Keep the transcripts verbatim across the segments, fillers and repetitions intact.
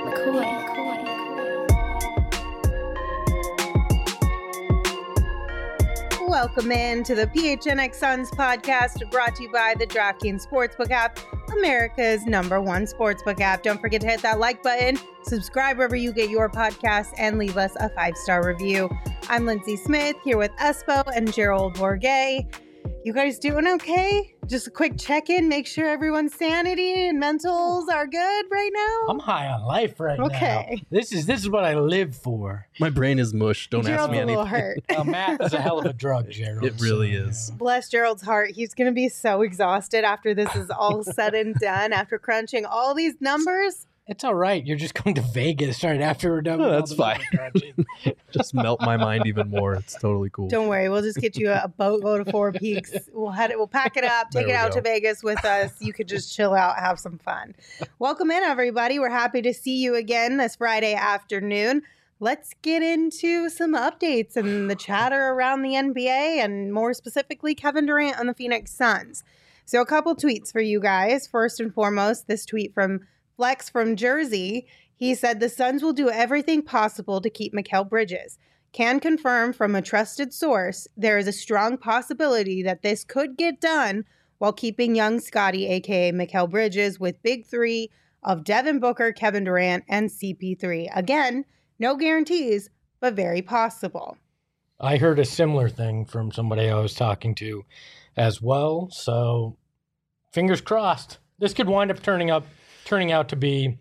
McCoy. Welcome in to the P H N X Suns podcast, brought to you by the DraftKings Sportsbook app, America's number one sportsbook app. Don't forget to hit that like button, subscribe wherever you get your podcasts, and leave us a five-star review. I'm Lindsay Smith here with Espo and Gerald Bourget. You guys doing okay? Just a quick check-in, make sure everyone's sanity and mentals are good right now? I'm high on life right okay. now. This is this is what I live for. My brain is mush. Don't Gerald's ask me a little anything. hurt. Uh, math is a hell of a drug, Gerald. It really so, is. Bless Gerald's heart. He's going to be so exhausted after this is all said and done, after crunching all these numbers. It's all right. You're just going to Vegas right after we're done. No, with all that's the fine. number crunching. Just melt my mind even more. It's totally cool. Don't worry. We'll just get you a boatload of Four Peaks. We'll head it. We'll pack it up, take There it we out go. to Vegas with us. You could just chill out, have some fun. Welcome in, everybody. We're happy to see you again this Friday afternoon. Let's get into some updates and the chatter around the N B A and more specifically Kevin Durant on the Phoenix Suns. So a couple tweets for you guys. First and foremost, this tweet from Flex from Jersey. He said the Suns will do everything possible to keep Mikal Bridges. Can confirm from a trusted source there is a strong possibility that this could get done while keeping young Scotty, aka Mikal Bridges, with big three of Devin Booker, Kevin Durant, and C P three. Again, no guarantees, but very possible. I heard a similar thing from somebody I was talking to as well. So fingers crossed. This could wind up turning up turning out to be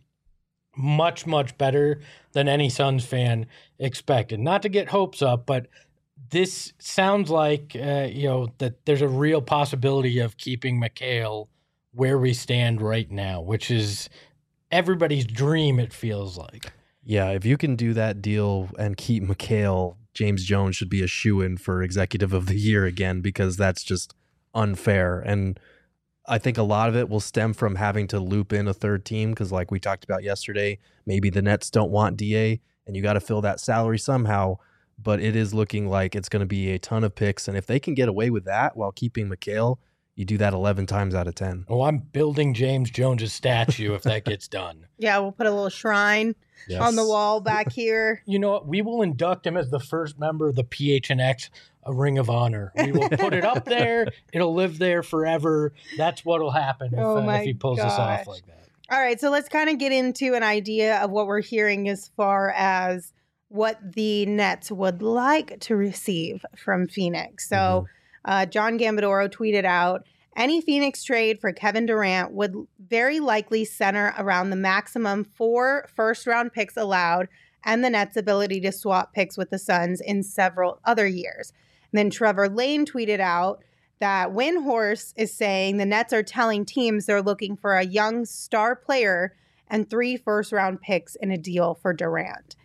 much, much better than any Suns fan expected. Not to get hopes up, but this sounds like, uh, you know, that there's a real possibility of keeping Mikal where we stand right now, which is everybody's dream, it feels like. Yeah, if you can do that deal and keep Mikal, James Jones should be a shoo-in for Executive of the Year again, because that's just unfair. And I think a lot of it will stem from having to loop in a third team because, like we talked about yesterday, maybe the Nets don't want D A and you got to fill that salary somehow. But it is looking like it's going to be a ton of picks. And if they can get away with that while keeping Mikal, you do that eleven times out of ten. Oh, I'm building James Jones' statue if that gets done. Yeah, we'll put a little shrine Yes. on the wall back here. You know what? We will induct him as the first member of the P H N X a Ring of Honor. We will put it up there. It'll live there forever. That's what will happen if, Oh uh, my if he pulls this gosh. off like that. All right, so let's kind of get into an idea of what we're hearing as far as what the Nets would like to receive from Phoenix. So Mhm. uh, John Gambadoro tweeted out, any Phoenix trade for Kevin Durant would very likely center around the maximum four first-round picks allowed and the Nets' ability to swap picks with the Suns in several other years. And then Trevor Lane tweeted out that Windhorse is saying the Nets are telling teams they're looking for a young star player and three first-round picks in a deal for Durant.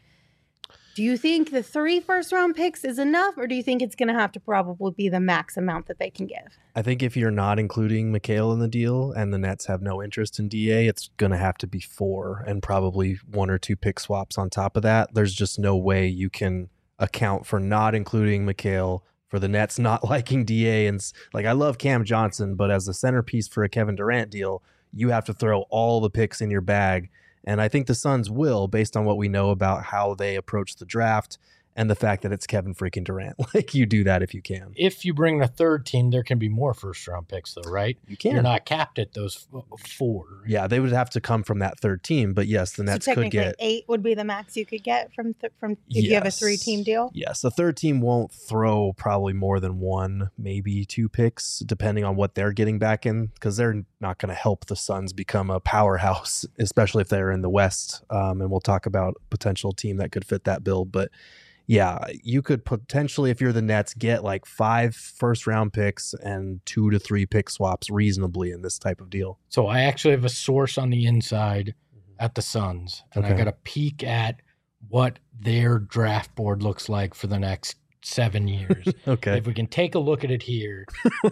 Do you think the three first-round picks is enough, or do you think it's going to have to probably be the max amount that they can give? I think if you're not including Mikal in the deal and the Nets have no interest in D A, it's going to have to be four and probably one or two pick swaps on top of that. There's just no way you can account for not including Mikal, for the Nets not liking D A. And like, I love Cam Johnson, but as a centerpiece for a Kevin Durant deal, you have to throw all the picks in your bag. And I think the Suns will, based on what we know about how they approach the draft and the fact that it's Kevin freaking Durant. Like, you do that if you can. If you bring a third team, there can be more first-round picks, though, right? You can. You're not capped at those f- four. Yeah, they would have to come from that third team. But yes, the Nets so could technically get eight would be the max you could get from th- from if you have a Yes. three-team deal? Yes, the third team won't throw probably more than one, maybe two picks, depending on what they're getting back in, because they're not going to help the Suns become a powerhouse, especially if they're in the West. Um, and we'll talk about a potential team that could fit that bill. But yeah, you could potentially, if you're the Nets, get like five first round picks and two to three pick swaps reasonably in this type of deal. So I actually have a source on the inside at the Suns, and I Okay. got a peek at what their draft board looks like for the next seven years. Okay. If we can take a look at it here,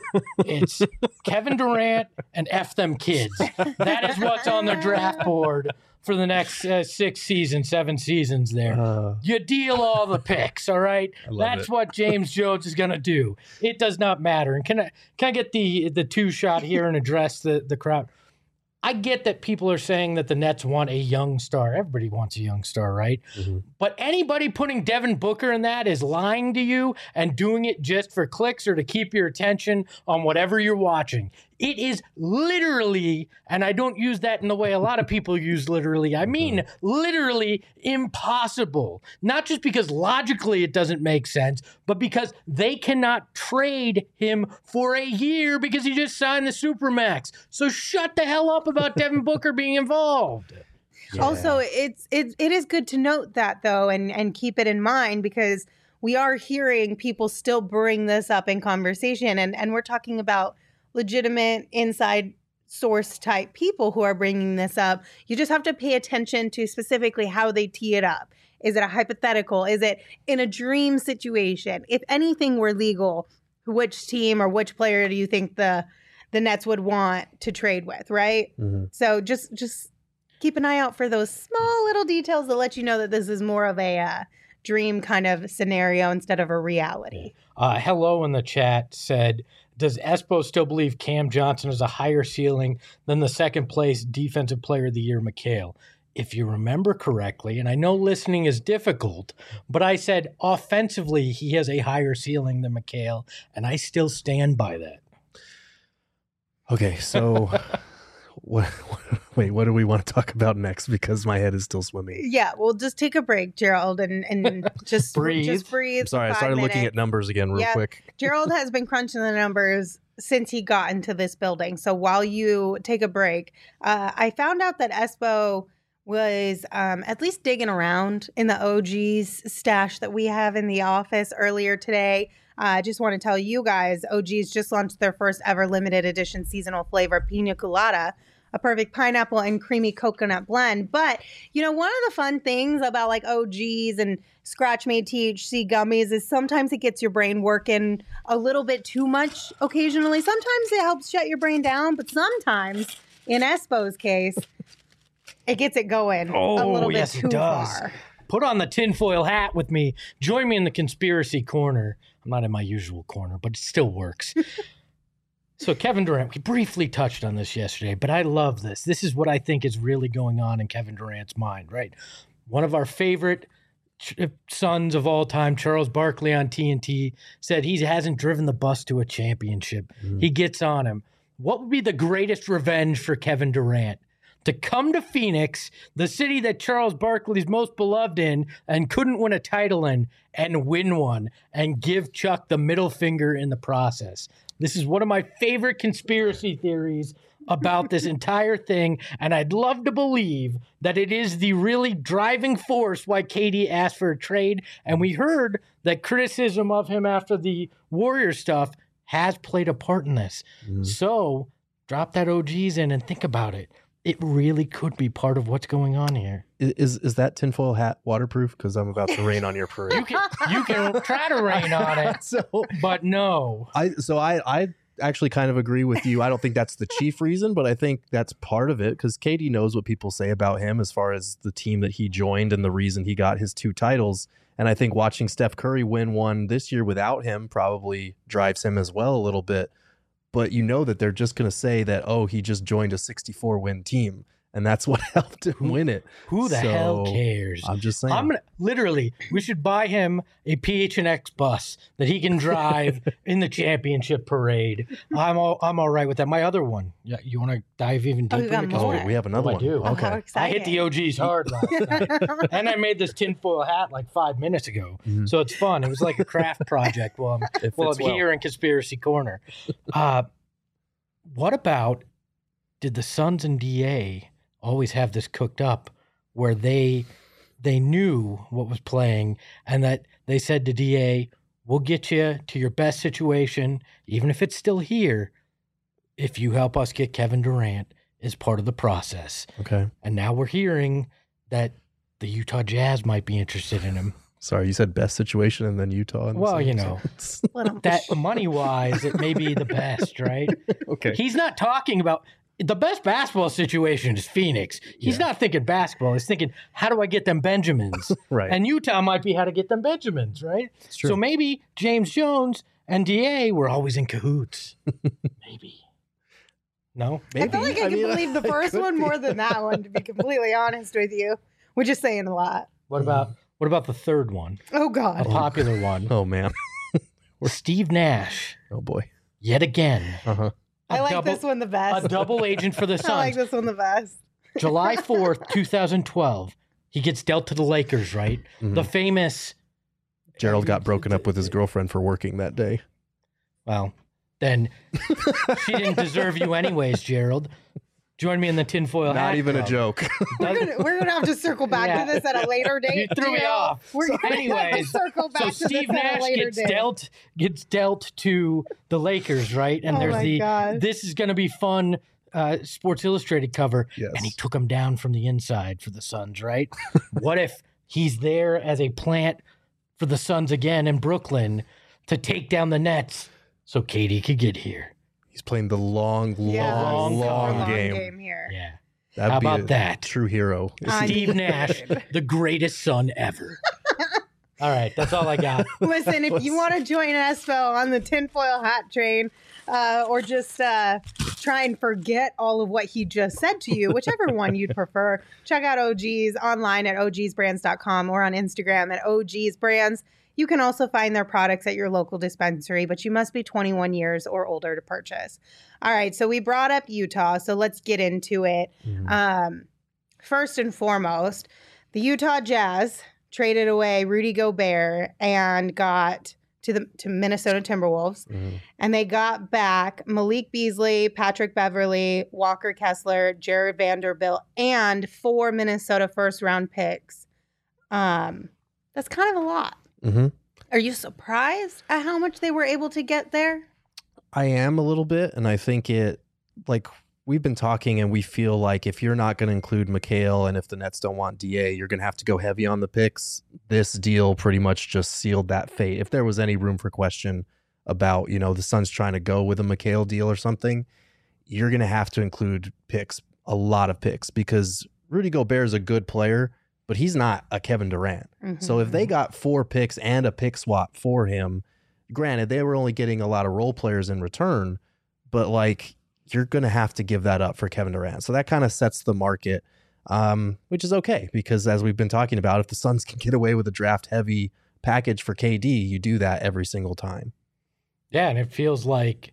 it's Kevin Durant and F them kids. That is what's on their draft board for the next uh, six seasons, seven seasons there. Uh, You deal all the picks, all right? I love That's it. what James Jones is going to do. It does not matter. And can I can I get the the two shot here and address the, the crowd? I get that people are saying that the Nets want a young star. Everybody wants a young star, right? Mm-hmm. But anybody putting Devin Booker in that is lying to you and doing it just for clicks or to keep your attention on whatever you're watching. It is literally, and I don't use that in the way a lot of people use literally, I mean literally impossible. Not just because logically it doesn't make sense, but because they cannot trade him for a year because he just signed the Supermax. So shut the hell up about Devin Booker being involved. Yeah. Also, it's it, it is good to note that, though, and, and keep it in mind, because we are hearing people still bring this up in conversation, and, and we're talking about legitimate inside source type people who are bringing this up. You just have to pay attention to specifically how they tee it up. Is it a hypothetical? Is it in a dream situation? If anything were legal, which team or which player do you think the the Nets would want to trade with, right? Mm-hmm. So just just keep an eye out for those small little details that let you know that this is more of a uh, dream kind of scenario instead of a reality. Uh, hello in the chat said, does Espo still believe Cam Johnson has a higher ceiling than the second place defensive player of the year, McHale? If you remember correctly, and I know listening is difficult, but I said offensively he has a higher ceiling than McHale, and I still stand by that. Okay, so what, what, wait, what do we want to talk about next? Because my head is still swimming. Yeah, well, just take a break, Gerald, and, and just breathe. Just breathe. I'm sorry, I five started minutes. looking at numbers again real Yeah. quick. Gerald has been crunching the numbers since he got into this building. So while you take a break, uh, I found out that Espo was um, at least digging around in the O G's stash that we have in the office earlier today. I uh, just want to tell you guys, O G's just launched their first ever limited edition seasonal flavor, Pina Colada, a perfect pineapple and creamy coconut blend. But, you know, one of the fun things about like O G's and Scratch Made T H C gummies is sometimes it gets your brain working a little bit too much occasionally. Sometimes it helps shut your brain down, but sometimes, in Espo's case, it gets it going Oh, a little yes, bit it too does. far. Put on the tinfoil hat with me. Join me in the conspiracy corner. I'm not in my usual corner, but it still works. So Kevin Durant, we briefly touched on this yesterday, but I love this. This is what I think is really going on in Kevin Durant's mind, right? One of our favorite ch- sons of all time, Charles Barkley on T N T, said he hasn't driven the bus to a championship. Mm. He gets on him. What would be the greatest revenge for Kevin Durant? To come to Phoenix, the city that Charles Barkley's most beloved in and couldn't win a title in, and win one and give Chuck the middle finger in the process. This is one of my favorite conspiracy theories about this entire thing, and I'd love to believe that it is the really driving force why K D asked for a trade, and we heard that criticism of him after the Warriors stuff has played a part in this. Mm. So drop that O Gs in and think about it. It really could be part of what's going on here. Is is that tinfoil hat waterproof? Because I'm about to rain on your parade. You can you can try to rain on it, so but no. I so I I actually kind of agree with you. I don't think that's the chief reason, but I think that's part of it because K D knows what people say about him as far as the team that he joined and the reason he got his two titles. And I think watching Steph Curry win one this year without him probably drives him as well a little bit. But you know that they're just going to say that, oh, he just joined a sixty-four win team. And that's what helped him win it. Who the So, hell cares? I'm just saying. I'm gonna literally. We should buy him a P H N X bus that he can drive in the championship parade. I'm all I'm all right with that. My other one. Yeah, you want to dive even Oh, deeper? you got into oh, more. conspiracy? we have another Oh, I one. do. Oh, Okay. how I exciting. hit the O Gs hard last night, and I made this tinfoil hat like five minutes ago. Mhm. So it's fun. It was like a craft project. Well, I'm It well, fits I'm well. here in Conspiracy Corner. Uh, what about, did the Suns and D A always have this cooked up where they they knew what was playing and that they said to D A, we'll get you to your best situation, even if it's still here, if you help us get Kevin Durant as part of the process. Okay. And now we're hearing that the Utah Jazz might be interested in him. Sorry, you said best situation and then Utah. in the Well, same you know. sentence. That money-wise, it may be the best, right? Okay. He's not talking about the best basketball situation is Phoenix. He's Yeah. not thinking basketball. He's thinking, how do I get them Benjamins? Right. And Utah might be how to get them Benjamins, right? It's true. So maybe James Jones and D A were always in cahoots. Maybe. No? Maybe. I feel like I, I can mean, believe the I first could one be. more than that one, to be completely honest with you. We're just saying a lot. What about what about the third one? Oh, A God. popular one. Oh man. Steve Nash, Oh boy. yet again. Uh-huh. A I like double, this one the A best. double agent for the I like Suns. this one the best. July fourth, twenty twelve. He gets dealt to the Lakers, right? Mhm. The famous, Gerald got broken up with his girlfriend for working that day. well, then she didn't deserve you anyways, Gerald. Join me in the tinfoil hat Not even a club. joke. We're gonna, we're gonna have to circle back Yeah. to this at a later date. You threw me Gino. off. We're So gonna have to anyways, circle back So to Steve this at a Nash later gets date. dealt gets dealt to the Lakers, right? And Oh there's my the God. this is going to be fun uh, Sports Illustrated cover, Yes. and he took him down from the inside for the Suns, right? What if he's there as a plant for the Suns again in Brooklyn to take down the Nets so Katie could get here? He's playing the long, Yeah, long, super long, long game. game here. Yeah. That'd How be about a that? True hero. I Steve mean- Nash, the greatest Sun ever. All right, that's all I got. Listen, if you want to join Espo on the tinfoil hat train, uh, or just uh, try and forget all of what he just said to you, whichever one you'd prefer, check out O G's online at o gs brands dot com or on Instagram at O Gs Brands. You can also find their products at your local dispensary, but you must be twenty-one years or older to purchase. All right, so we brought up Utah, so let's get into it. Mhm. Um, first and foremost, the Utah Jazz traded away Rudy Gobert and got to the to Minnesota Timberwolves, Mhm. and they got back Malik Beasley, Patrick Beverly, Walker Kessler, Jared Vanderbilt, and four Minnesota first round picks. Um, that's kind of a lot. Mhm. Are you surprised at how much they were able to get there? I am a little bit, and I think it, like, we've been talking, and we feel like if you're not going to include McHale, and if the Nets don't want D A, you're going to have to go heavy on the picks. This deal pretty much just sealed that fate. If there was any room for question about, you know, the Suns trying to go with a McHale deal or something, you're going to have to include picks, a lot of picks, because Rudy Gobert is a good player, but he's not a Kevin Durant. So if they got four picks and a pick swap for him, granted, they were only getting a lot of role players in return, but like, you're going to have to give that up for Kevin Durant. So that kind of sets the market, um, which is okay, because as we've been talking about, if the Suns can get away with a draft heavy package for K D, you do that every single time. Yeah, and it feels like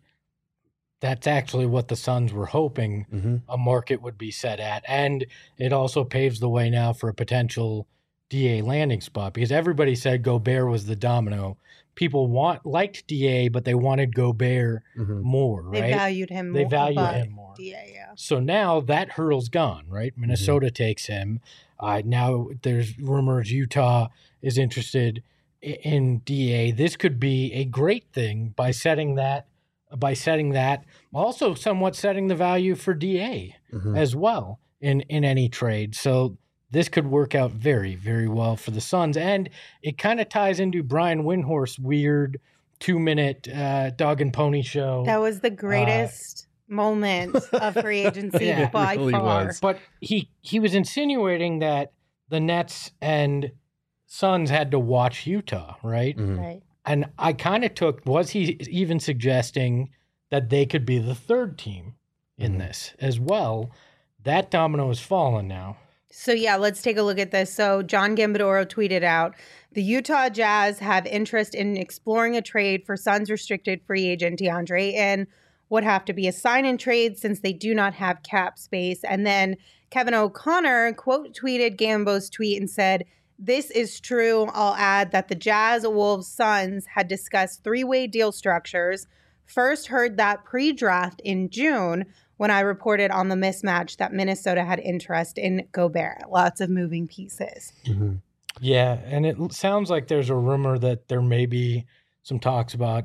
that's actually what the Suns were hoping Mm-hmm. a market would be set at. And it also paves the way now for a potential D A landing spot, because everybody said Gobert was the domino. People want liked D A, but they wanted Gobert Mm-hmm. more, They right? valued him They more. value above him more. D A, yeah. So now that hurdle's gone, right? Minnesota takes him. Uh, now there's rumors Utah is interested i- in D A. This could be a great thing by setting that, by setting that, also somewhat setting the value for D A Mm-hmm. as well in in any trade. So this could work out very, very well for the Suns, and it kind of ties into Brian Windhorst's weird two-minute uh, dog and pony show. That was the greatest moment of free agency Yeah, it by really far. was. But he he was insinuating that the Nets and Suns had to watch Utah, right? Mm-hmm. Right. And I kind of took, was he even suggesting that they could be the third team in Mhm. this as well? That domino has fallen now. So yeah, let's take a look at this. So John Gambadoro tweeted out, the Utah Jazz have interest in exploring a trade for Suns restricted free agent DeAndre Ayton. Would have to be a sign-in trade since they do not have cap space. And then Kevin O'Connor quote tweeted Gambo's tweet and said, this is true. I'll add that the Jazz, Wolves, Suns had discussed three-way deal structures. First heard that pre-draft in June when I reported on the mismatch that Minnesota had interest in Gobert. Lots of moving pieces. Mm-hmm. Yeah, and it l- sounds like there's a rumor that there may be some talks about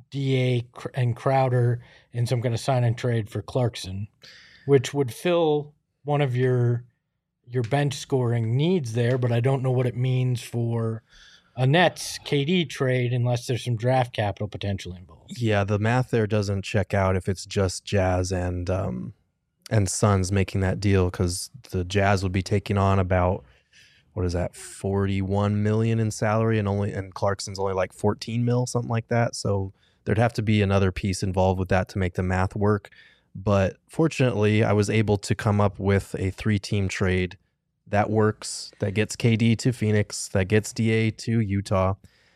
D A Cr- and Crowder in some kind of sign and trade for Clarkson, which would fill one of your your bench scoring needs there, but I don't know what it means for a Nets K D trade unless there's some draft capital potential involved. Yeah, the math there doesn't check out if it's just Jazz and um, and Suns making that deal, because the Jazz would be taking on about, what is that, forty-one million in salary, and only and Clarkson's only like fourteen mil, something like that. So there'd have to be another piece involved with that to make the math work. But fortunately, I was able to come up with a three-team trade that works, that gets K D to Phoenix, that gets D A to Utah.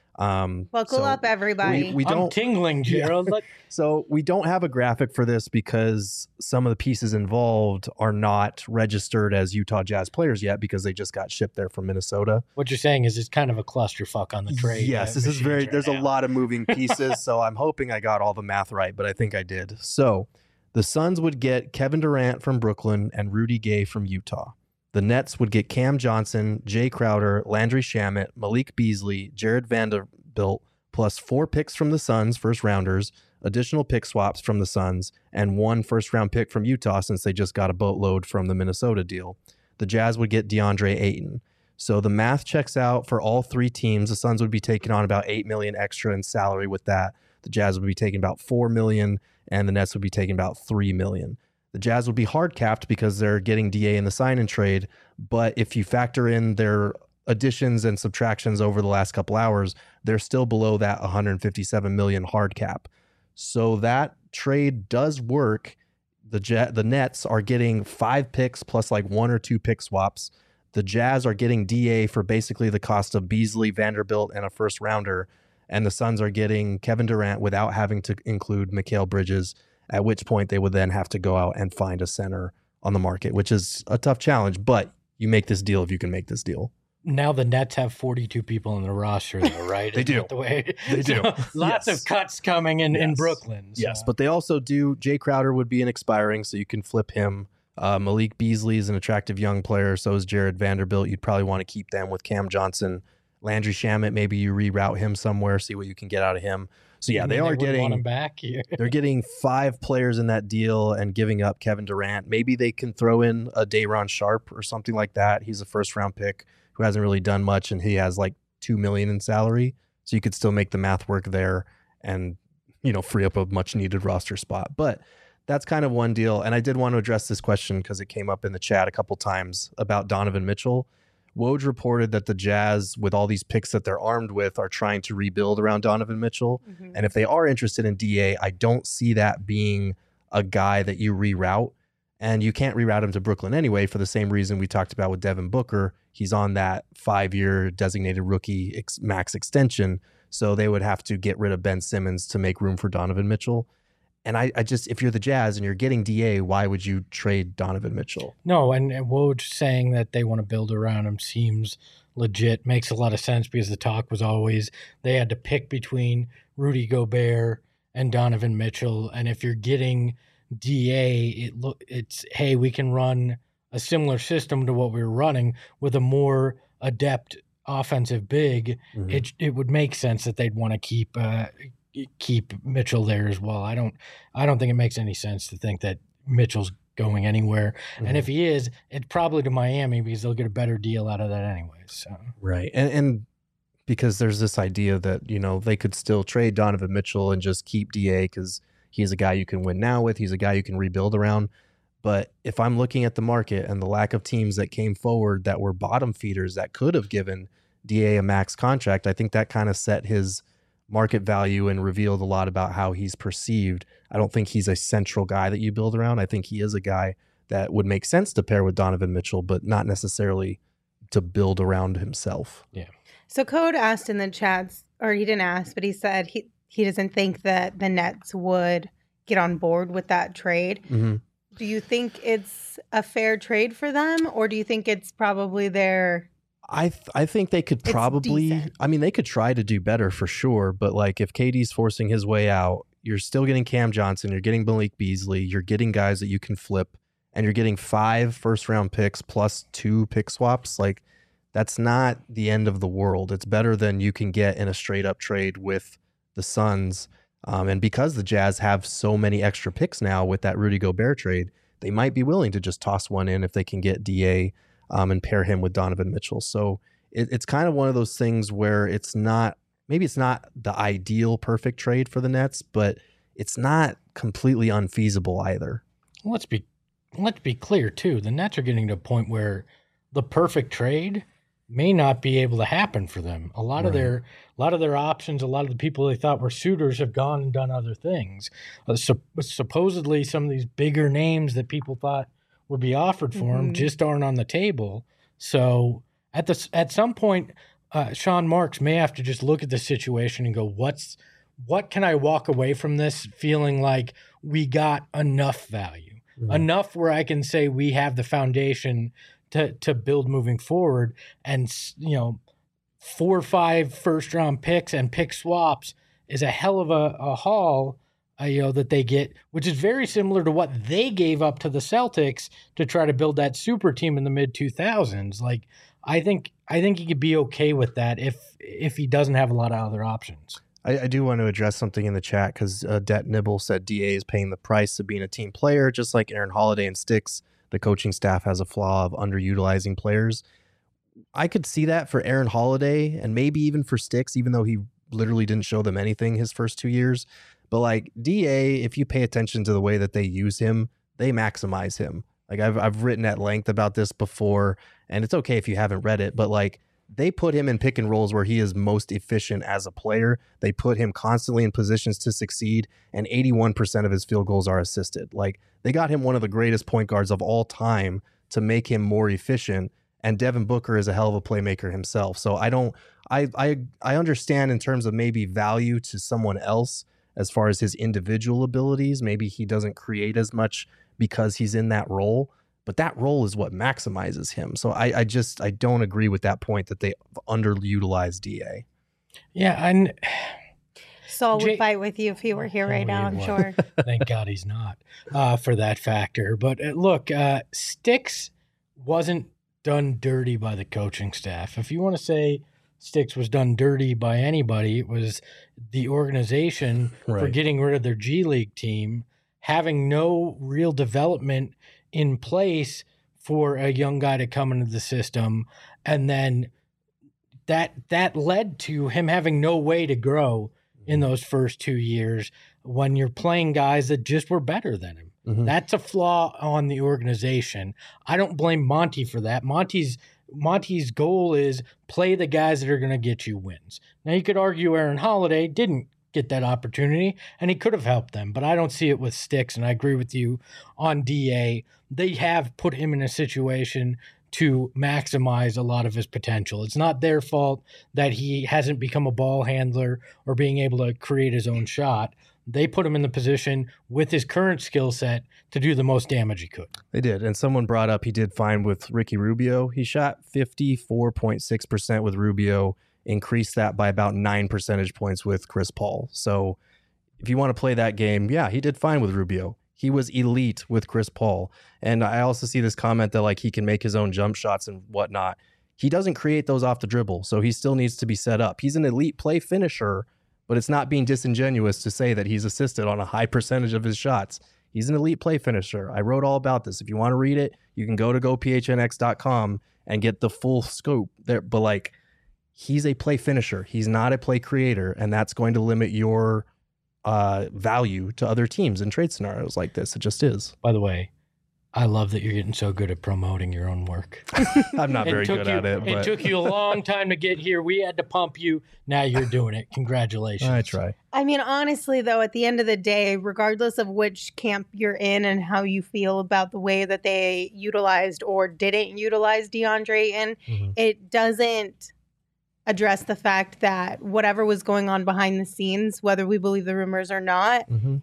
Um, Buckle so up, everybody. We, we I'm don't tingling, Gerald. Yeah. So we don't have a graphic for this because some of the pieces involved are not registered as Utah Jazz players yet because they just got shipped there from Minnesota. What you're saying is it's kind of a clusterfuck on the trade. Yes, uh, this is machines very, right there's now. a lot of moving pieces. So I'm hoping I got all the math right, but I think I did. So the Suns would get Kevin Durant from Brooklyn and Rudy Gay from Utah. The Nets would get Cam Johnson, Jay Crowder, Landry Shamet, Malik Beasley, Jared Vanderbilt, plus four picks from the Suns, first rounders, additional pick swaps from the Suns, and one first round pick from Utah since they just got a boatload from the Minnesota deal. The Jazz would get DeAndre Ayton. So the math checks out for all three teams. The Suns would be taking on about eight million dollars extra in salary with that. The Jazz would be taking about four million dollars, and the Nets would be taking about three million dollars. The Jazz would be hard capped because they're getting D A in the sign and trade. But if you factor in their additions and subtractions over the last couple hours, they're still below that one hundred fifty-seven million hard cap. So that trade does work. The Jet, the Nets are getting five picks plus like one or two pick swaps. The Jazz are getting D A for basically the cost of Beasley, Vanderbilt, and a first rounder. And the Suns are getting Kevin Durant without having to include Mikal Bridges, at which point they would then have to go out and find a center on the market, which is a tough challenge. But you make this deal if you can make this deal. Now the Nets have forty-two people in the roster, though, right? They Isn't do. that the way? They do. So lots Yes. of cuts coming in, in Yes. Brooklyn. So. Yes, but they also do. Jay Crowder would be an expiring, so you can flip him. Uh, Malik Beasley is an attractive young player. So is Jared Vanderbilt. You'd probably want to keep them with Cam Johnson. Landry Shamet, maybe you reroute him somewhere, see what you can get out of him. So yeah, You they mean are wouldn't want him getting back here. they're getting five players in that deal and giving up Kevin Durant. Maybe they can throw in a Day'Ron Sharp or something like that. He's a first round pick who hasn't really done much, and he has like two million in salary. So you could still make the math work there and, you know, free up a much needed roster spot. But that's kind of one deal. And I did want to address this question because it came up in the chat a couple times about Donovan Mitchell. Woj reported that the Jazz, with all these picks that they're armed with, are trying to rebuild around Donovan Mitchell. Mhm. And if they are interested in D A, I don't see that being a guy that you reroute. And you can't reroute him to Brooklyn anyway for the same reason we talked about with Devin Booker. He's on that five-year designated rookie ex- max extension. So they would have to get rid of Ben Simmons to make room for Donovan Mitchell. And I, I just, if you're the Jazz and you're getting D A, why would you trade Donovan Mitchell? No, and, and Woj saying that they want to build around him seems legit. Makes a lot of sense because the talk was always they had to pick between Rudy Gobert and Donovan Mitchell. And if you're getting D A, it look it's hey, we can run a similar system to what we were running with a more adept offensive big. Mhm. It it would make sense that they'd want to keep uh, keep Mitchell there as well. I don't I don't think it makes any sense to think that Mitchell's going anywhere. Mm-hmm. And if he is, it's probably to Miami because they'll get a better deal out of that anyway. So Right. And and because there's this idea that, you know, they could still trade Donovan Mitchell and just keep D A because he's a guy you can win now with. He's a guy you can rebuild around. But if I'm looking at the market and the lack of teams that came forward that were bottom feeders that could have given D A a max contract, I think that kind of set his market value and revealed a lot about how he's perceived. I don't think he's a central guy that you build around. I think he is a guy that would make sense to pair with Donovan Mitchell, but not necessarily to build around himself. yeah. So Code asked in the chats, or he didn't ask, but he said he, he doesn't think that the Nets would get on board with that trade. Mm-hmm. Do you think it's a fair trade for them, or do you think it's probably their... I th- I think they could It's probably, decent. I mean, they could try to do better for sure. But like if K D's forcing his way out, you're still getting Cam Johnson, you're getting Malik Beasley, you're getting guys that you can flip, and you're getting five first round picks plus two pick swaps. Like that's not the end of the world. It's better than you can get in a straight up trade with the Suns. Um, and because the Jazz have so many extra picks now with that Rudy Gobert trade, they might be willing to just toss one in if they can get D A um, and pair him with Donovan Mitchell. So it, it's kind of one of those things where it's not, maybe it's not the ideal perfect trade for the Nets, but it's not completely unfeasible either. Let's be let's be clear too. The Nets are getting to a point where the perfect trade may not be able to happen for them. A lot Right. of their a lot of their options, a lot of the people they thought were suitors have gone and done other things. Uh, sup- supposedly, some of these bigger names that people thought would be offered for him Mhm. just aren't on the table. So at the at some point, uh, Sean Marks may have to just look at the situation and go, "What's what can I walk away from this feeling like we got enough value, Mhm. enough where I can say we have the foundation to to build moving forward, and s- you know, four or five first round picks and pick swaps is a hell of a, a haul, uh, you know, that they get, which is very similar to what they gave up to the Celtics to try to build that super team in the mid two thousands. Like, I think I think he could be okay with that if if he doesn't have a lot of other options. I, I do want to address something in the chat because uh, Det Nibble said D A is paying the price of being a team player, just like Aaron Holiday and Sticks. The coaching staff has a flaw of underutilizing players. I could see that for Aaron Holiday and maybe even for Sticks, even though he literally didn't show them anything his first two years. But like D A, if you pay attention to the way that they use him, they maximize him. Like I've I've written at length about this before, and it's okay if you haven't read it, but like they put him in pick and rolls where he is most efficient as a player. They put him constantly in positions to succeed, and eighty-one percent of his field goals are assisted. Like they got him one of the greatest point guards of all time to make him more efficient. And Devin Booker is a hell of a playmaker himself. So I don't, I, I, I understand in terms of maybe value to someone else as far as his individual abilities. Maybe he doesn't create as much because he's in that role, but that role is what maximizes him. So I, I just, I don't agree with that point that they underutilized D A. Yeah, and Saul would Jay- fight with you if he were here Oh, right now, he I'm would. sure. thank God he's not uh, for that factor. But uh, look, uh, Sticks wasn't done dirty by the coaching staff. If you want to say Sticks was done dirty by anybody, it was the organization for Right. getting rid of their G League team, having no real development in place for a young guy to come into the system, and then that that led to him having no way to grow in those first two years when you're playing guys that just were better than him. Mhm. That's a flaw on the organization. I don't blame Monty for that. Monty's Monty's goal is play the guys that are going to get you wins. Now you could argue Aaron Holiday didn't get that opportunity and he could have helped them, but I don't see it with Sticks, and I agree with you on D A. They have put him in a situation to maximize a lot of his potential. It's not their fault that he hasn't become a ball handler or being able to create his own shot. They put him in the position with his current skill set to do the most damage he could. They did. And someone brought up he did fine with Ricky Rubio. He shot fifty-four point six percent with Rubio, increased that by about nine percentage points with Chris Paul. So if you want to play that game, yeah, he did fine with Rubio. He was elite with Chris Paul. And I also see this comment that like he can make his own jump shots and whatnot. He doesn't create those off the dribble, so he still needs to be set up. He's an elite play finisher, but it's not being disingenuous to say that he's assisted on a high percentage of his shots. He's an elite play finisher. I wrote all about this. If you want to read it, you can go to go p h n x dot com and get the full scope there. But like, he's a play finisher. He's not a play creator, and that's going to limit your uh, value to other teams in trade scenarios like this. It just is. By the way, I love that you're getting so good at promoting your own work. I'm not very took good you, at it, It but took you a long time to get here. We had to pump you. Now you're doing it. Congratulations. I try. I mean, honestly, though, at the end of the day, regardless of which camp you're in and how you feel about the way that they utilized or didn't utilize DeAndre Ayton, Mhm. it doesn't address the fact that whatever was going on behind the scenes, whether we believe the rumors or not, Mm-hmm.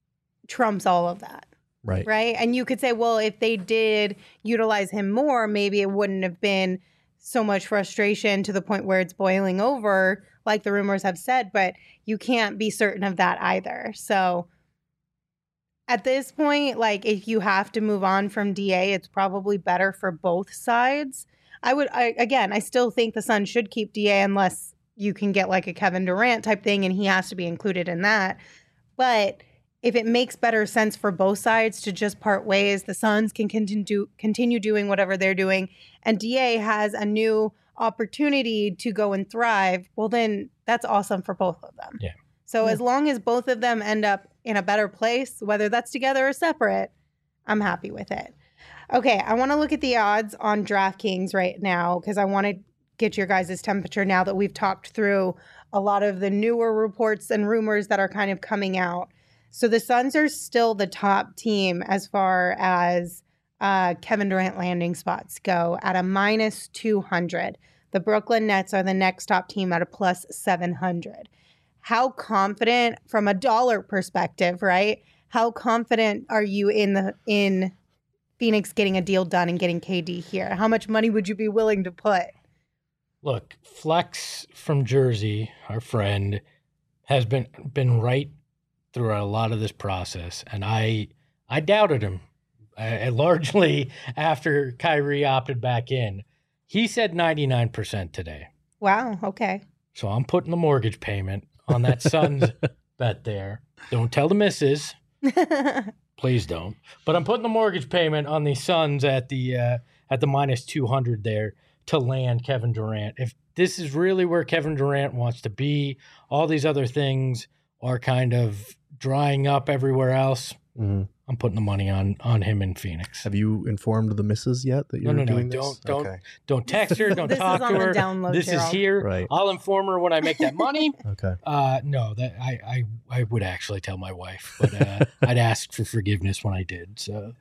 trumps all of that. Right. Right. And you could say, well, if they did utilize him more, maybe it wouldn't have been so much frustration to the point where it's boiling over, like the rumors have said, but you can't be certain of that either. So at this point, like if you have to move on from D A, it's probably better for both sides. I would, I, again, I still think the Suns should keep D A unless you can get like a Kevin Durant type thing and he has to be included in that. But if it makes better sense for both sides to just part ways, the Suns can continue continue doing whatever they're doing, and D A has a new opportunity to go and thrive, well, then that's awesome for both of them. Yeah. So Yeah. as long as both of them end up in a better place, whether that's together or separate, I'm happy with it. Okay, I want to look at the odds on DraftKings right now because I want to get your guys' temperature now that we've talked through a lot of the newer reports and rumors that are kind of coming out. So the Suns are still the top team as far as uh, Kevin Durant landing spots go at a minus two hundred. The Brooklyn Nets are the next top team at a plus seven hundred. How confident, from a dollar perspective, right? How confident are you in the in Phoenix getting a deal done and getting K D here? How much money would you be willing to put? Look, Flex from Jersey, our friend, has been been right through a lot of this process, and I I doubted him, uh, largely after Kyrie opted back in. He said ninety-nine percent today. Wow, okay. So I'm putting the mortgage payment on that Suns bet there. Don't tell the missus. Please don't. But I'm putting the mortgage payment on the Suns at the uh, at the minus two hundred there to land Kevin Durant. If this is really where Kevin Durant wants to be, all these other things are kind of drying up everywhere else. Mm-hmm. I'm putting the money on on him in Phoenix. Have you informed the missus yet that you're no, no, doing no. this? Don't don't Okay. don't text her. Don't This talk is to on the her. download, This Gerald. is here. Right. I'll inform her when I make that money. Okay. Uh, no, that I, I I would actually tell my wife, but uh, I'd ask for forgiveness when I did. So,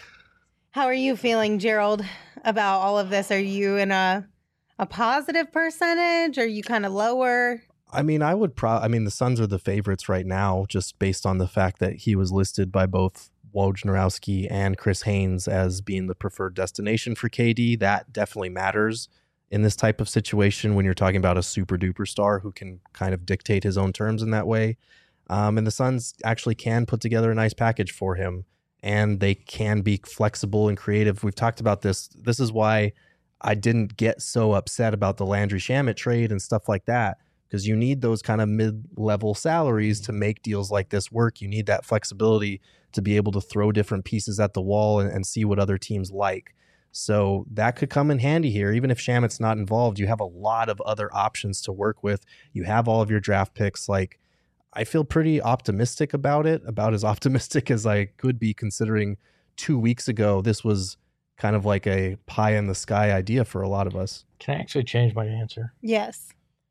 How are you feeling, Gerald, about all of this? Are you in a a positive percentage? Are you kind of lower? I mean, I would pro. I mean, the Suns are the favorites right now, just based on the fact that he was listed by both Wojnarowski and Chris Haynes as being the preferred destination for K D. That definitely matters in this type of situation when you're talking about a super duper star who can kind of dictate his own terms in that way. Um, and the Suns actually can put together a nice package for him, and they can be flexible and creative. We've talked about this. This is why I didn't get so upset about the Landry Shamet trade and stuff like that, because you need those kind of mid-level salaries to make deals like this work. You need that flexibility to be able to throw different pieces at the wall and, and see what other teams like. So that could come in handy here. Even if Shamet's not involved, you have a lot of other options to work with. You have all of your draft picks. Like, I feel pretty optimistic about it, about as optimistic as I could be, considering two weeks ago, this was kind of like a pie in the sky idea for a lot of us. can I actually change my answer? Yes.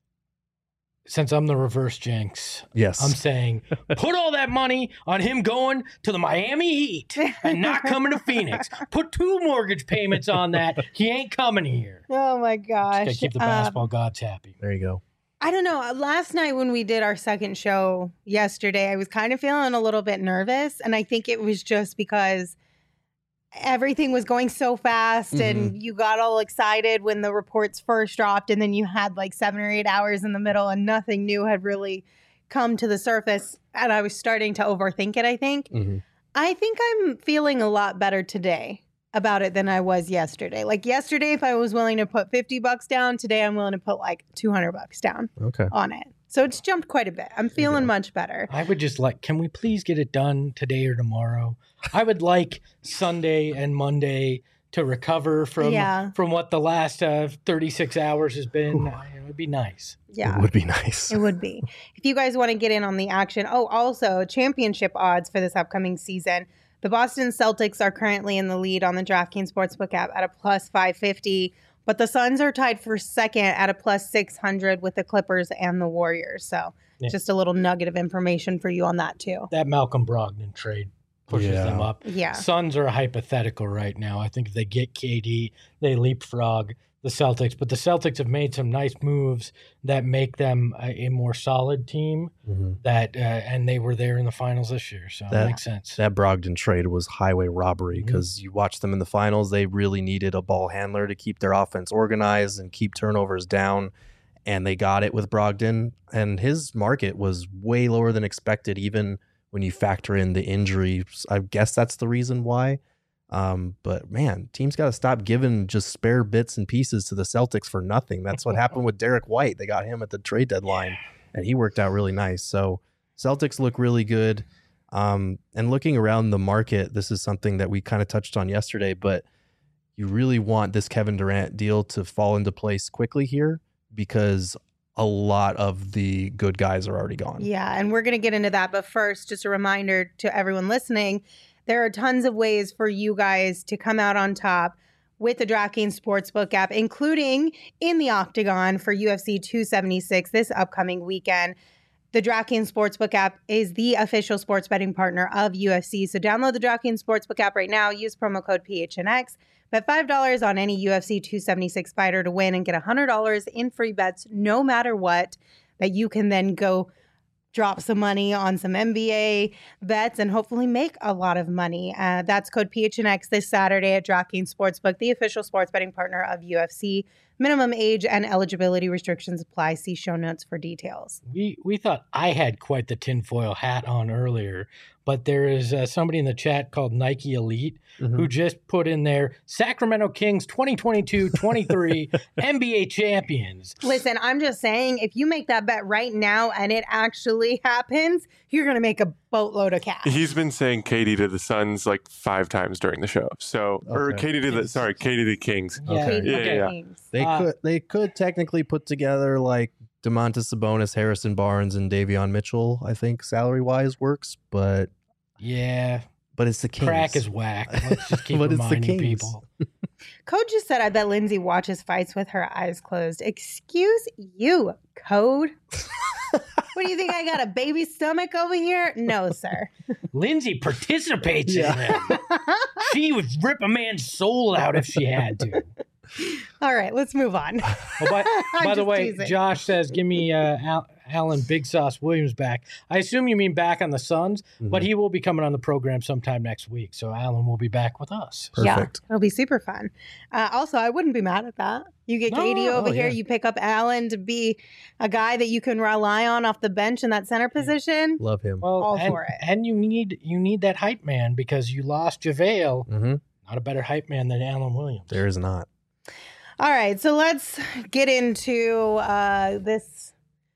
Since I'm the reverse Jinx, Yes. I'm saying put all that money on him going to the Miami Heat and not coming to Phoenix. Put two mortgage payments on that. He ain't coming here. Oh my gosh. Gotta keep the Um, basketball gods happy. There you go. I don't know. Last night when we did our second show yesterday, I was kind of feeling a little bit nervous. And I think it was just because everything was going so fast and you got all excited when the reports first dropped. And then you had like seven or eight hours in the middle and nothing new had really come to the surface. And I was starting to overthink it, I think. Mm-hmm. I think I'm feeling a lot better today about it than I was yesterday. Like yesterday, if I was willing to put fifty bucks down, today I'm willing to put like two hundred bucks down Okay. on it. So it's jumped quite a bit. I'm feeling go. much better. I would just like, can we please get it done today or tomorrow? I would like Sunday and Monday to recover from Yeah. from what the last uh, thirty-six hours has been. It would be nice. Yeah. It would be nice. It would be. If you guys want to get in on the action. Oh, also championship odds for this upcoming season. The Boston Celtics are currently in the lead on the DraftKings Sportsbook app at a plus five fifty, but the Suns are tied for second at a plus six hundred with the Clippers and the Warriors. So Yeah. just a little nugget of information for you on that too. That Malcolm Brogdon trade pushes Yeah. them up. Yeah. Suns are a hypothetical right now. I think if they get K D, they leapfrog the Celtics. But the Celtics have made some nice moves that make them a, a more solid team. Mm-hmm. That uh, and they were there in the finals this year, so That- it makes sense. That Brogdon trade was highway robbery Mhm. because you watch them in the finals. They really needed a ball handler to keep their offense organized and keep turnovers down. And they got it with Brogdon. And his market was way lower than expected, even when you factor in the injuries. I guess that's the reason why. Um, but man, teams got to stop giving just spare bits and pieces to the Celtics for nothing. That's what happened with Derek White. They got him at the trade deadline, and he worked out really nice. So Celtics look really good. Um, and looking around the market, this is something that we kind of touched on yesterday, but you really want this Kevin Durant deal to fall into place quickly here because a lot of the good guys are already gone. Yeah, and we're going to get into that. But first, just a reminder to everyone listening, there are tons of ways for you guys to come out on top with the DraftKings Sportsbook app, including in the Octagon for U F C two seventy-six this upcoming weekend. The DraftKings Sportsbook app is the official sports betting partner of U F C. So download the DraftKings Sportsbook app right now. Use promo code P H N X. Bet five dollars on any U F C two seventy-six fighter to win and get one hundred dollars in free bets no matter what, that you can then go drop some money on some N B A bets and hopefully make a lot of money. Uh, that's code P H N X this Saturday at DraftKings Sportsbook, the official sports betting partner of U F C. Minimum age and eligibility restrictions apply. See show notes for details. We we thought I had quite the tinfoil hat on earlier, but there is uh, somebody in the chat called Nike Elite mm-hmm. who just put in there Sacramento Kings twenty twenty-two twenty-three N B A champions. Listen, I'm just saying, if you make that bet right now and it actually happens, you're going to make a boatload of cash. He's been saying Katie to the Suns like five times during the show. So, okay. or Katie to the sorry, Katie to the Kings. Yeah. Okay. Yeah, yeah, yeah. Kings. They uh, could they could technically put together like DeMontis Sabonis, Harrison Barnes, and Davion Mitchell. I think salary wise works, but yeah, but it's the Kings. Crack is whack. Let's just keep but reminding it's the Kings. people. Code just said, I bet Lindsay watches fights with her eyes closed. Excuse you, Code. What do you think? I got a baby stomach over here? No, sir. Lindsay participates yeah. in them. She would rip a man's soul out if she had to. All right, let's move on. Oh, by by the way, teasing. Josh says, give me uh, Al- Alan Big Sauce Williams back. I assume you mean back on the Suns, mm-hmm. but he will be coming on the program sometime next week. So Alan will be back with us. Perfect. Yeah, it'll be super fun. Uh, also, I wouldn't be mad at that. You get no, Katie over oh, here. Yeah. You pick up Alan to be a guy that you can rely on off the bench in that center position. Love him. Well, All and, for it. And you need you need that hype man because you lost JaVale. Mm-hmm. Not a better hype man than Alan Williams. There is not. All right, so let's get into uh, this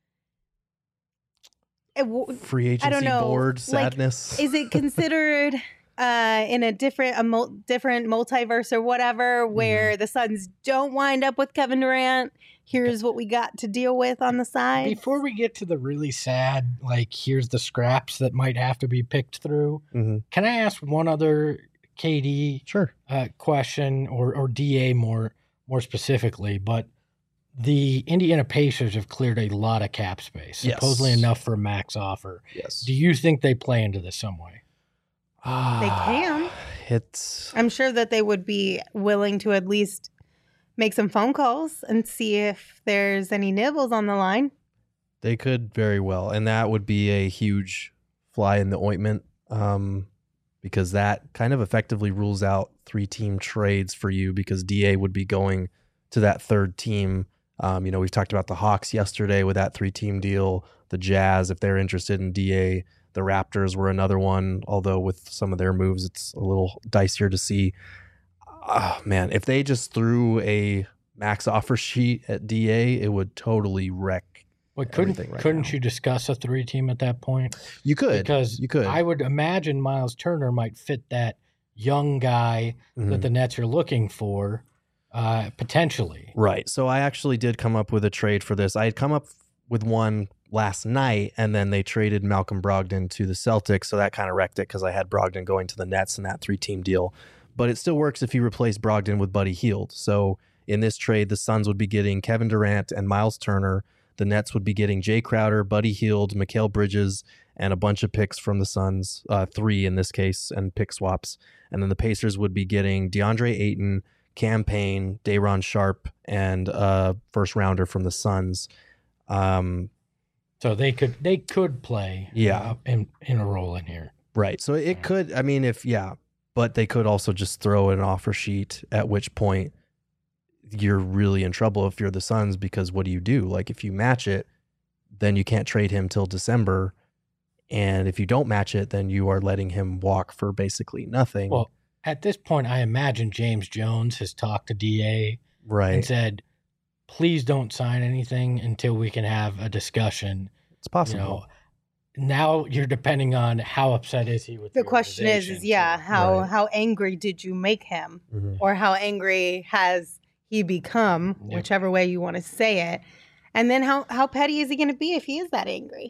free agency I don't know, board like, sadness. Is it considered uh, in a different a mul- different multiverse or whatever, where mm. the Suns don't wind up with Kevin Durant? Here's what we got to deal with on the side. Before we get to the really sad, like here's the scraps that might have to be picked through. Mm-hmm. Can I ask one other K D sure uh, question or or D A more? More specifically, but the Indiana Pacers have cleared a lot of cap space, yes. supposedly enough for a max offer. Yes. Do you think they play into this some way? They can. It's. I'm sure that they would be willing to at least make some phone calls and see if there's any nibbles on the line. They could very well, and that would be a huge fly in the ointment, um, because that kind of effectively rules out three-team trades for you because D A would be going to that third team. Um, you know, we've talked about the Hawks yesterday with that three-team deal, the Jazz, if they're interested in D A, the Raptors were another one, although with some of their moves, it's a little dicier to see. Oh, man, if they just threw a max offer sheet at D A, it would totally wreck Well, couldn't right couldn't now. you discuss a three-team at that point? You could. Because you could. I would imagine Miles Turner might fit that young guy mm-hmm. that the Nets are looking for, uh, potentially. Right. So I actually did come up with a trade for this. I had come up with one last night, and then they traded Malcolm Brogdon to the Celtics, so that kind of wrecked it because I had Brogdon going to the Nets in that three-team deal. But it still works if you replace Brogdon with Buddy Hield. So in this trade, the Suns would be getting Kevin Durant and Miles Turner. The Nets would be getting Jay Crowder, Buddy Hield, Mikal Bridges, and a bunch of picks from the Suns, uh, three in this case, and pick swaps. And then the Pacers would be getting DeAndre Ayton, Cam Payne, Day'Ron Sharpe, and a first rounder from the Suns. Um, so they could they could play yeah. uh, in, in a role in here. Right. So it could, I mean, if, yeah, but they could also just throw an offer sheet, at which point you're really in trouble if you're the Suns, because what do you do? Like, if you match it, then you can't trade him till December. And if you don't match it, then you are letting him walk for basically nothing. Well, at this point, I imagine James Jones has talked to D A right. and said, please don't sign anything until we can have a discussion. It's possible. You know, now you're depending on how upset is he with the, the question is, is yeah, how, right. how angry did you make him? Mm-hmm. Or how angry has he become, yep. whichever way you want to say it. And then how, how petty is he going to be if he is that angry?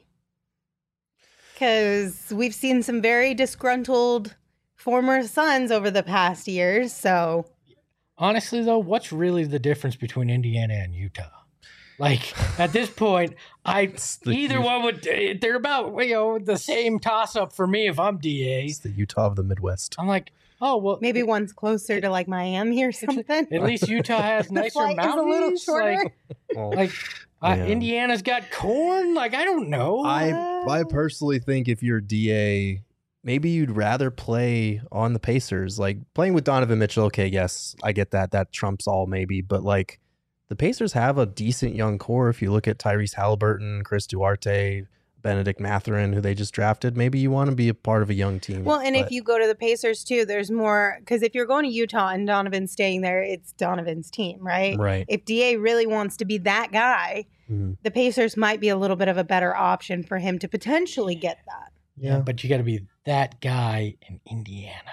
Because we've seen some very disgruntled former Suns over the past years. So honestly, though, what's really the difference between Indiana and Utah? Like, at this point, I either one would, they're about, you know, the same toss-up for me if I'm D A. It's the Utah of the Midwest. I'm like, oh, well. Maybe one's closer to, like, Miami or something. At least Utah has nicer mountains. A little shorter. Like, well, like uh, yeah. Indiana's got corn. Like, I don't know. I I personally think if you're D A, maybe you'd rather play on the Pacers. Like, playing with Donovan Mitchell, okay, yes, I get that. That trumps all maybe. But, like, the Pacers have a decent young core. If you look at Tyrese Halliburton, Chris Duarte, Benedict Mathurin, who they just drafted, maybe you want to be a part of a young team. Well, and but... if you go to the Pacers too, there's more, because if you're going to Utah and Donovan's staying there, it's Donovan's team, right? Right. If D A really wants to be that guy, mm-hmm. the Pacers might be a little bit of a better option for him to potentially get that. Yeah, but you got to be that guy in Indiana.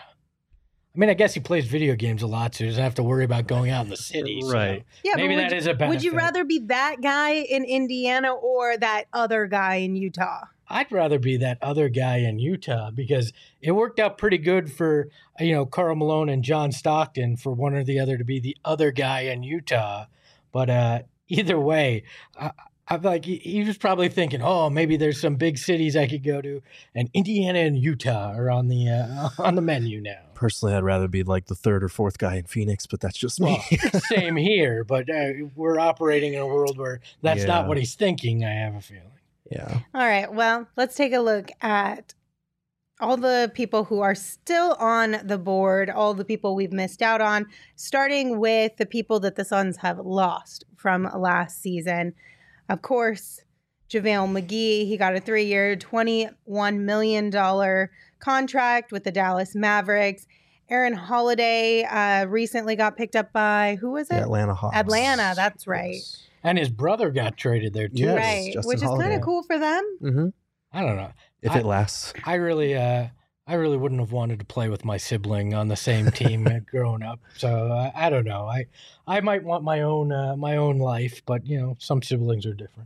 I mean, I guess he plays video games a lot, so he doesn't have to worry about going out in the city. So right. Yeah, maybe that you, is a benefit. Would you rather be that guy in Indiana or that other guy in Utah? I'd rather be that other guy in Utah because it worked out pretty good for, you know, Karl Malone and John Stockton for one or the other to be the other guy in Utah. But uh, either way, I, I'm like, he, he was probably thinking, oh, maybe there's some big cities I could go to, and Indiana and Utah are on the uh, on the menu now. Personally, I'd rather be like the third or fourth guy in Phoenix, but that's just me. Well, same here, but uh, we're operating in a world where that's yeah. not what he's thinking, I have a feeling. Yeah. All right, well, let's take a look at all the people who are still on the board, all the people we've missed out on, starting with the people that the Suns have lost from last season. Of course, JaVale McGee, he got a three-year, twenty-one million dollars contract with the Dallas Mavericks. Aaron Holiday uh, recently got picked up by, who was it? The Atlanta Hawks. Atlanta, that's right. And his brother got traded there, too. Yes, right, Justin which is kind of cool for them. Mm-hmm. I don't know. If I, it lasts. I really... Uh, I really wouldn't have wanted to play with my sibling on the same team growing up. So uh, I don't know. I I might want my own uh, my own life, but you know, some siblings are different.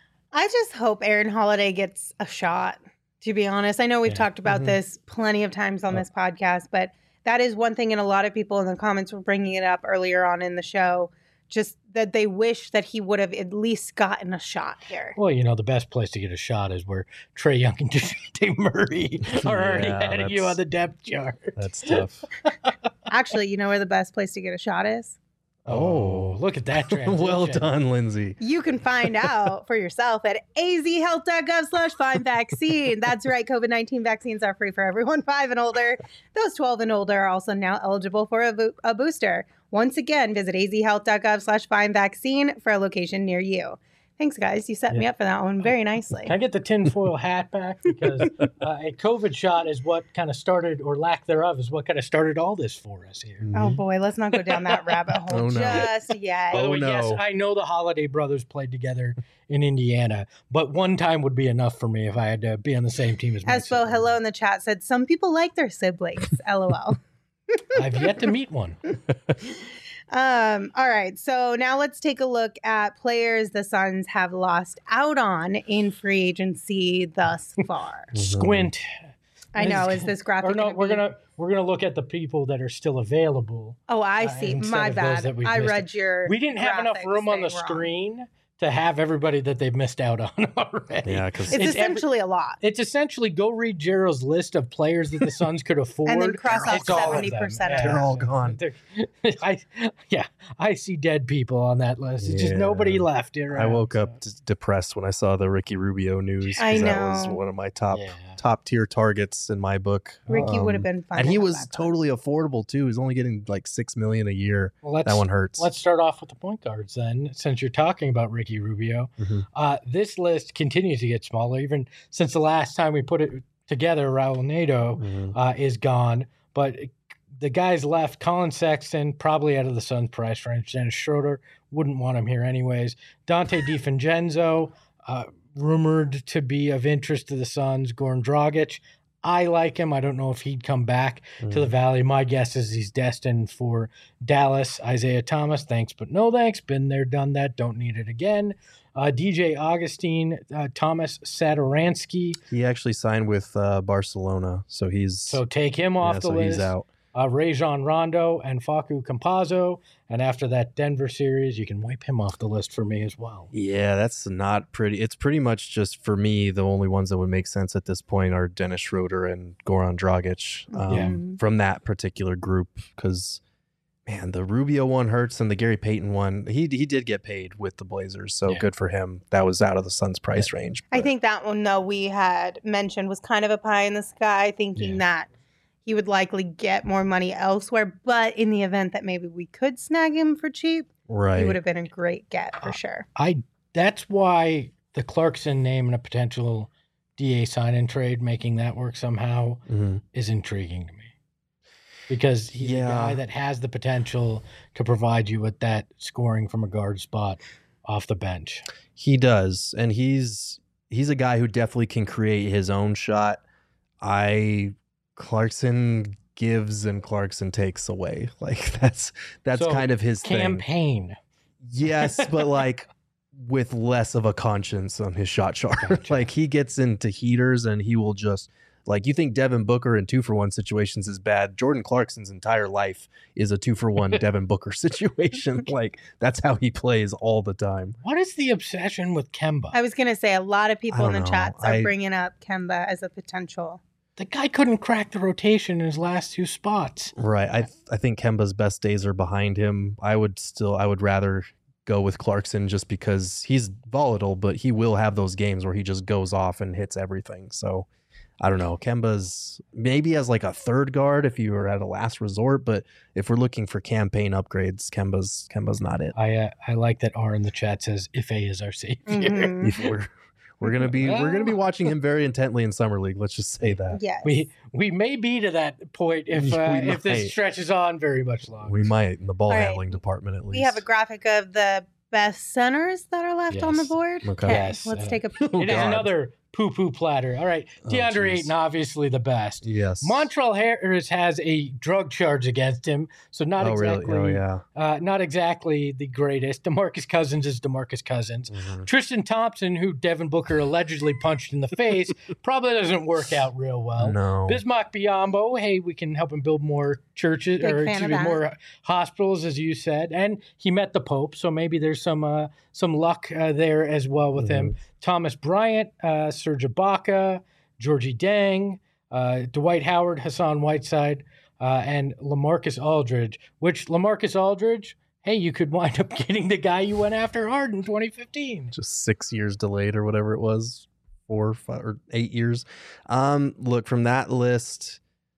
I just hope Aaron Holiday gets a shot, to be honest. I know we've yeah. talked about mm-hmm. this plenty of times on oh. this podcast, but that is one thing, and a lot of people in the comments were bringing it up earlier on in the show, just that they wish that he would have at least gotten a shot here. Well, you know, the best place to get a shot is where Trae Young and DeJounte Murray are already yeah, ahead of you on the depth chart. That's tough. Actually, you know where the best place to get a shot is? Oh, look at that transition. Well done, Lindsay. You can find out for yourself at azhealth.gov slash find vaccine. That's right. COVID nineteen vaccines are free for everyone five and older. Those twelve and older are also now eligible for a, bo- a booster. Once again, visit azhealth.gov slash find vaccine for a location near you. Thanks, guys. You set yeah. me up for that one very nicely. Can I get the tinfoil hat back? Because uh, a COVID shot is what kind of started, or lack thereof, is what kind of started all this for us here. Oh, boy. Let's not go down that rabbit hole oh, no. just yet. By the oh, way, no. yes, I know the Holiday brothers played together in Indiana, but one time would be enough for me if I had to be on the same team as my Espo, sibling. hello in the chat, said some people like their siblings. LOL. I've yet to meet one. Um, all right, so now let's take a look at players the Suns have lost out on in free agency thus far. Squint. I know. Is this graphic? Or no, gonna we're be... gonna we're gonna look at the people that are still available. Oh, I see. Uh, My bad. I read it. your. We didn't have enough room on the wrong. screen to have everybody that they've missed out on already. Yeah, because it's, it's essentially every, a lot. It's essentially go read Gerald's list of players that the Suns could afford, and then cross out seventy percent. They're all gone. They're, I, yeah, I see dead people on that list. It's yeah. just nobody left. Around, I woke so. up d- depressed when I saw the Ricky Rubio news. I know that was one of my top yeah. top tier targets in my book. Ricky um, would have been fun, and he was totally on. affordable too. He's only getting like six million a year. Well, that one hurts. Let's start off with the point guards then, since you're talking about Ricky Rubio. Mm-hmm. Uh, this list continues to get smaller, even since the last time we put it together. Raul Neto mm-hmm. uh, is gone, but the guys left. Colin Sexton probably out of the Suns' price range. Dennis Schroeder wouldn't want him here anyways. Dante DiVincenzo, uh, rumored to be of interest to the Suns. Goran Dragic, I like him. I don't know if he'd come back mm. to the Valley. My guess is he's destined for Dallas. Isaiah Thomas, thanks but no thanks. Been there, done that. Don't need it again. Uh, D J Augustine, uh, Thomas Satoransky. He actually signed with uh, Barcelona, so he's so take him off yeah, the so list. He's out. uh, Rajon Rondo and Facu Campazzo. And after that Denver series, you can wipe him off the list for me as well. Yeah, that's not pretty. It's pretty much just, for me, the only ones that would make sense at this point are Dennis Schroeder and Goran Dragic um, Yeah. from that particular group. Because, man, the Rubio one hurts, and the Gary Payton one, he he did get paid with the Blazers, so Yeah. good for him. That was out of the Suns' price range. I but- think that one, though, we had mentioned was kind of a pie in the sky, thinking Yeah. that he would likely get more money elsewhere. But in the event that maybe we could snag him for cheap, right. he would have been a great get for Uh, sure. I that's why the Clarkson name and a potential D A sign and trade, making that work somehow, Mhm. is intriguing to me. Because he's Yeah. a guy that has the potential to provide you with that scoring from a guard spot off the bench. He does, and he's he's a guy who definitely can create his own shot. I Clarkson gives and Clarkson takes away. Like that's that's So, kind of his thing. Campaign. Yes, but like with less of a conscience on his shot chart. Gotcha. Like he gets into heaters and he will just, like, you think Devin Booker in two for one situations is bad. Jordan Clarkson's entire life is a two for one Devin Booker situation. Like that's how he plays all the time. What is the obsession with Kemba? I was going to say a lot of people I in the don't know. chats are I- bringing up Kemba as a potential. The guy couldn't crack the rotation in his last two spots. Right. I I think Kemba's best days are behind him. I would still I would rather go with Clarkson just because he's volatile, but he will have those games where he just goes off and hits everything. So I don't know. Kemba's maybe as like a third guard if you were at a last resort, but if we're looking for campaign upgrades, Kemba's Kemba's not it. I uh, I like that R in the chat says Ife is our savior. Mhm. If we're we're gonna be we're gonna be watching him very intently in summer league. Let's just say that. Yes. We we may be to that point if We uh, if might. this stretches on very much longer. We might in the ball All right. handling department at least. we have a graphic of the best centers that are left on the Yes. board. Okay. Yes, Let's uh, take a peek. Oh, It is God. another poo-poo platter. All right, Oh, DeAndre geez. Ayton, obviously the best. Yes. Montrell Harris has a drug charge against him, so not oh exactly, really? Oh yeah. uh, not exactly the greatest. DeMarcus Cousins is DeMarcus Cousins. Mhm. Tristan Thompson, who Devin Booker allegedly punched in the face, probably doesn't work out real well. No. Bismack Biyombo, hey, we can help him build more churches Big or fan excuse of me, that. more hospitals, as you said, and he met the Pope, so maybe there's some uh, some luck uh, there as well with him. Thomas Bryant, uh, Serge Ibaka, Georgie Dang, uh, Dwight Howard, Hassan Whiteside, uh, and LaMarcus Aldridge. Which LaMarcus Aldridge, hey, you could wind up getting the guy you went after hard in twenty fifteen. Just six years delayed or whatever it was, four, five, or eight years. Um, look, from that list,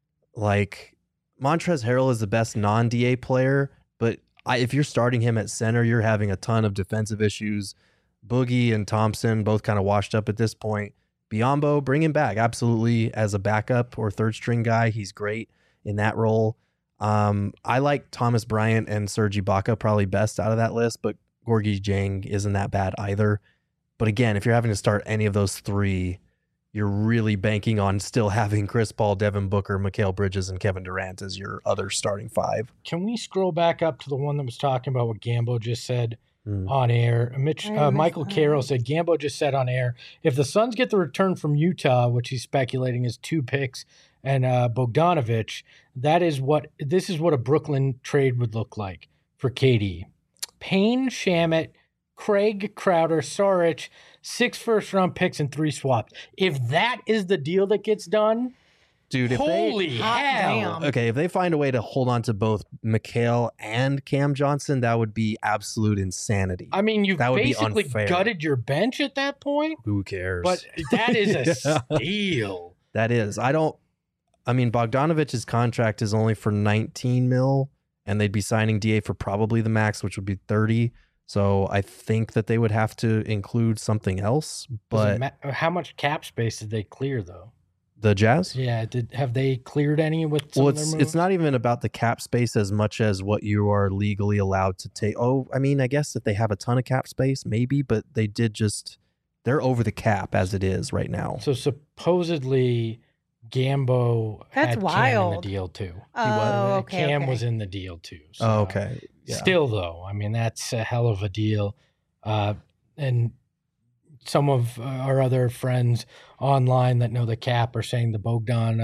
like Montrezl Harrell is the best non-D A player, but I, if you're starting him at center, you're having a ton of defensive issues. Boogie and Thompson both kind of washed up at this point. Biyombo, bring him back absolutely as a backup or third string guy. He's great in that role. Um, I like Thomas Bryant and Serge Ibaka probably best out of that list, but Gorgie Jang isn't that bad either. But again, if you're having to start any of those three, you're really banking on still having Chris Paul, Devin Booker, Mikal Bridges, and Kevin Durant as your other starting five. Can we scroll back up to the one that was talking about what Gambo just said Hmm. on air? Mitch, I uh, missed Michael that. Carroll said Gambo just said on air, if the Suns get the return from Utah, which he's speculating is two picks and uh, Bogdanovich, that is what this is what a Brooklyn trade would look like for K D. Payne, Shamet, Craig, Crowder, Saric, six first round picks and three swaps. If that is the deal that gets done, Dude, if holy they Hot hell! damn. okay, if they find a way to hold on to both Mikal and Cam Johnson, that would be absolute insanity. I mean, you've That would be basically unfair. gutted your bench at that point, Who cares? but that is a Yeah. steal. That is. I don't. I mean, Bogdanovich's contract is only for nineteen mil, and they'd be signing D A for probably the max, which would be thirty. So I think that they would have to include something else. Does it But ma- how much cap space did they clear, though? the Jazz, Yeah, did have they cleared any with some well, of their it's moves? it's not even about the cap space as much as what you are legally allowed to take. Oh, I mean, I guess if they have a ton of cap space, maybe, but they did just they're over the cap as it is right now. So supposedly, Gambo That's had Cam in wild. the deal too. Oh, okay. Cam okay. was in the deal too. So, Oh, okay. Yeah. Still, though, I mean, that's a hell of a deal. Uh, and some of uh, our other friends online that know the cap are saying the Bogdan uh,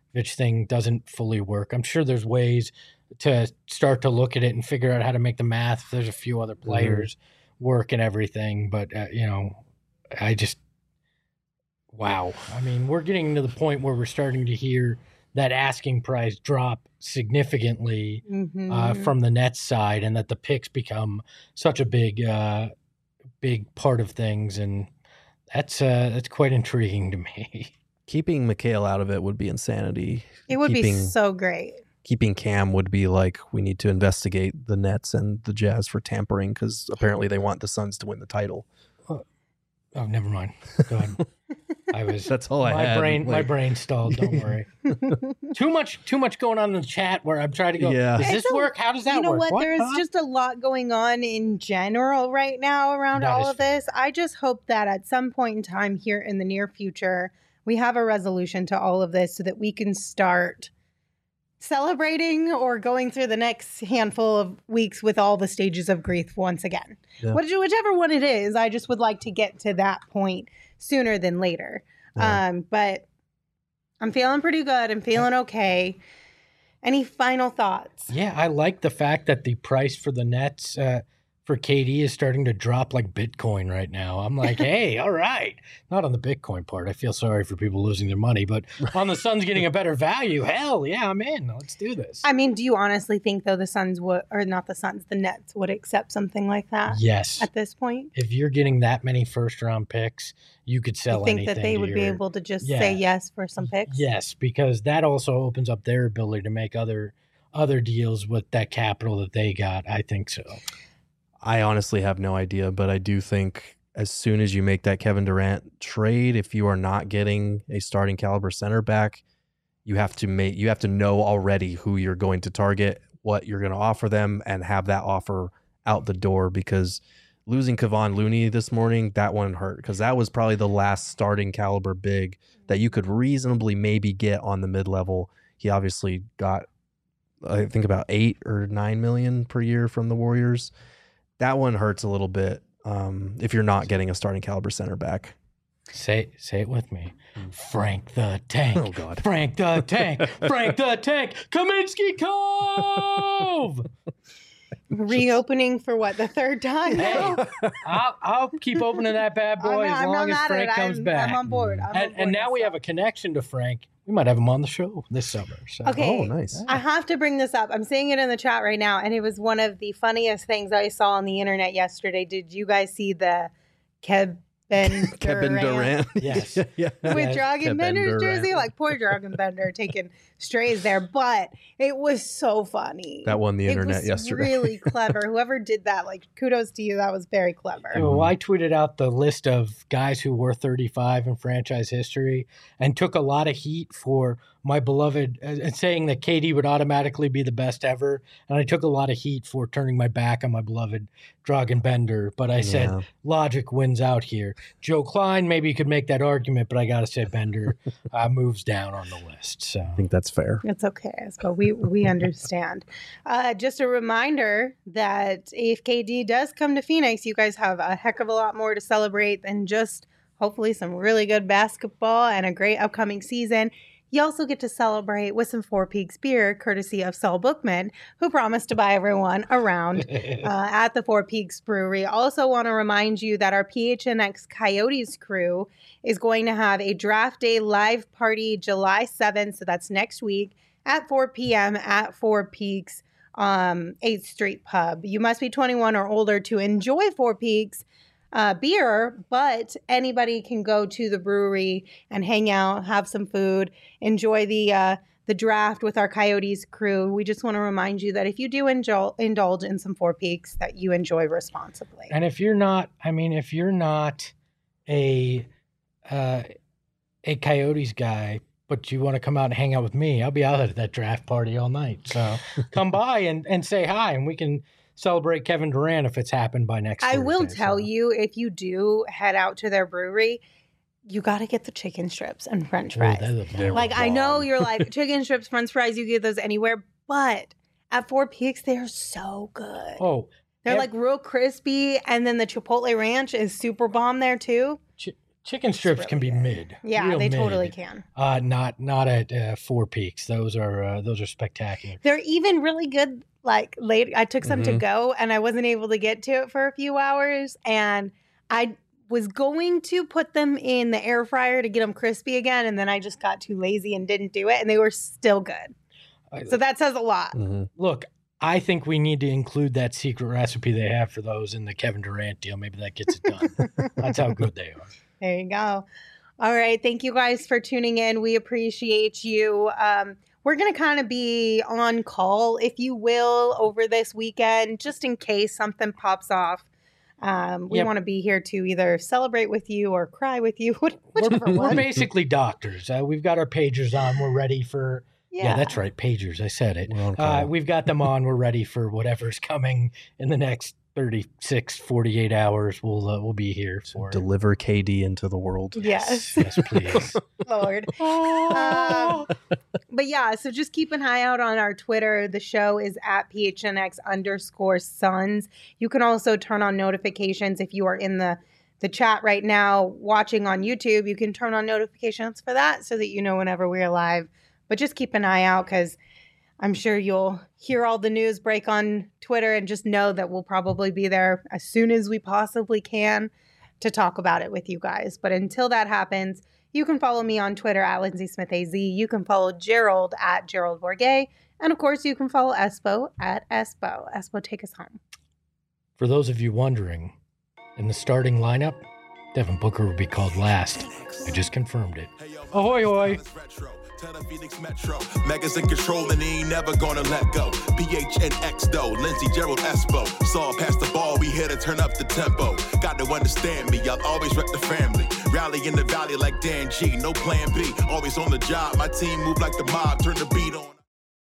thing doesn't fully work. I'm sure there's ways to start to look at it and figure out how to make the math. If there's a few other players mm-hmm. work and everything, but uh, you know, I just wow. I mean, we're getting to the point where we're starting to hear that asking price drop significantly mm-hmm. uh, from the Nets side, and that the picks become such a big, uh, big part of things, and that's uh, that's quite intriguing to me. Keeping Mikal out of it would be insanity. It would keeping, be so great. Keeping Cam would be like, we need to investigate the Nets and the Jazz for tampering because apparently they want the Suns to win the title. Oh, oh never mind. Go ahead. I was. That's all I my had. brain. Like, my brain stalled. Don't worry. too much. Too much going on in the chat where I'm trying to go. Yeah. Does this a, work? How does that work? You know work? what? what? There's huh? just a lot going on in general right now around that all of fair. this. I just hope that at some point in time here in the near future, we have a resolution to all of this so that we can start celebrating or going through the next handful of weeks with all the stages of grief once again. Yeah. Whichever one it is, I just would like to get to that point sooner than later. Yeah. Um, but I'm feeling pretty good. I'm feeling okay. Any final thoughts? Yeah, I like the fact that the price for the Nets uh, for K D is starting to drop like Bitcoin right now. I'm like, hey, all right. Not on the Bitcoin part. I feel sorry for people losing their money, but on the Suns getting a better value, hell yeah, I'm in. Let's do this. I mean, do you honestly think, though, the Suns would, or not the Suns, the Nets would accept something like that? Yes. At this point? If you're getting that many first round picks, you could sell anything. You think that they would your, be able to just yeah. say yes for some picks? Yes, because that also opens up their ability to make other other deals with that capital that they got. I think so. I honestly have no idea, but I do think as soon as you make that Kevin Durant trade, if you are not getting a starting caliber center back, you have to make you have to know already who you're going to target, what you're going to offer them, and have that offer out the door. Because losing Kevon Looney this morning, that one hurt because that was probably the last starting caliber big that you could reasonably maybe get on the mid level. He obviously got, I think, about eight or nine million per year from the Warriors. That one hurts a little bit um, if you're not getting a starting caliber center back. Say say it with me. Frank the Tank. Oh, God. Frank the Tank. Frank the Tank. Kaminsky Cove. Reopening for what, the third time now? Hey, I'll, I'll keep opening that bad boy I'm, as I'm long as Frank comes I'm, back. I'm on board. I'm and, on board and now we have a connection to Frank. We might have him on the show this summer. So. Okay. Oh, nice. I have to bring this up. I'm seeing it in the chat right now, and it was one of the funniest things I saw on the internet yesterday. Did you guys see the Kevin Durant? Kevin Durant. Yes. yeah. With Dragon Kevin Bender's Durant. jersey? Like, poor Dragon Bender taking strays there, but it was so funny. That won the internet it was yesterday. really clever. Whoever did that, like, kudos to you. That was very clever. Well, I tweeted out the list of guys who were thirty-five in franchise history and took a lot of heat for my beloved, and uh, saying that K D would automatically be the best ever. And I took a lot of heat for turning my back on my beloved Dragan Bender. But I yeah. said, logic wins out here. Joe Klein, maybe you could make that argument, but I got to say Bender uh, moves down on the list. So I think that's fair. It's okay. So we, we understand. Uh, just a reminder that if K D does come to Phoenix, you guys have a heck of a lot more to celebrate than just hopefully some really good basketball and a great upcoming season. You also get to celebrate with some Four Peaks beer, courtesy of Saul Bookman, who promised to buy everyone around uh, at the Four Peaks Brewery. Also want to remind you that our P H N X Coyotes crew is going to have a draft day live party July seventh, so that's next week, at four p.m. at Four Peaks um, eighth Street Pub. You must be twenty-one or older to enjoy Four Peaks Uh, beer, but anybody can go to the brewery and hang out, have some food, enjoy the uh, the draft with our Coyotes crew. We just want to remind you that if you do indul- indulge in some Four Peaks, that you enjoy responsibly. And if you're not, I mean, if you're not a uh, a Coyotes guy, but you want to come out and hang out with me, I'll be out at that draft party all night. So come by and, and say hi, and we can celebrate Kevin Durant if it's happened by next I Thursday, will tell so. you, if you do head out to their brewery, you got to get the chicken strips and French fries. Oh, like, I know you're like, chicken strips, French fries, you get those anywhere, but at Four Peaks, they're so good. Oh, they're like real crispy, and then the Chipotle Ranch is super bomb there too. Ch- Chicken strips really can be good. mid. Yeah, Real they mid. totally can. Uh, not not at uh, Four Peaks. Those are uh, those are spectacular. They're even really good. Like late, I took some Mhm. to go, and I wasn't able to get to it for a few hours, and I was going to put them in the air fryer to get them crispy again, and then I just got too lazy and didn't do it, and they were still good. So that says a lot. Mm-hmm. Look, I think we need to include that secret recipe they have for those in the Kevin Durant deal. Maybe that gets it done. That's how good they are. There you go. All right. Thank you guys for tuning in. We appreciate you. Um, we're going to kind of be on call, if you will, over this weekend, just in case something pops off. Um, we Yep. want to be here to either celebrate with you or cry with you, We're, whichever we're one. basically doctors. Uh, we've got our pagers on. We're ready for. Yeah, that's right. Pagers. I said it. We're on Uh, call. we've got them on. We're ready for whatever's coming in the next thirty-six, forty-eight hours. We'll uh, we'll be here for. Deliver K D into the world. Yes, Yes, please. Lord. Um, but yeah, so just keep an eye out on our Twitter. The show is at P H N X underscore Suns. You can also turn on notifications if you are in the the chat right now watching on YouTube. You can turn on notifications for that so that you know whenever we're live. But just keep an eye out because I'm sure you'll hear all the news break on Twitter, and just know that we'll probably be there as soon as we possibly can to talk about it with you guys. But until that happens, you can follow me on Twitter at Lindsay Smith A Z. You can follow Gerald at Gerald Bourget. And of course, you can follow Espo at Espo. Espo, take us home. For those of you wondering, in the starting lineup, Devin Booker will be called last. I just confirmed it. Ahoy, ahoy. Tell the Phoenix Metro, Megas in control and he ain't never gonna let go. P H N X though, Lindsay, Gerald, Espo. Saw pass the ball, we here to turn up the tempo. Got to understand me, I'll always rep the family. Rally in the valley like Dan G, no plan B. Always on the job, my team move like the mob, turn the beat on.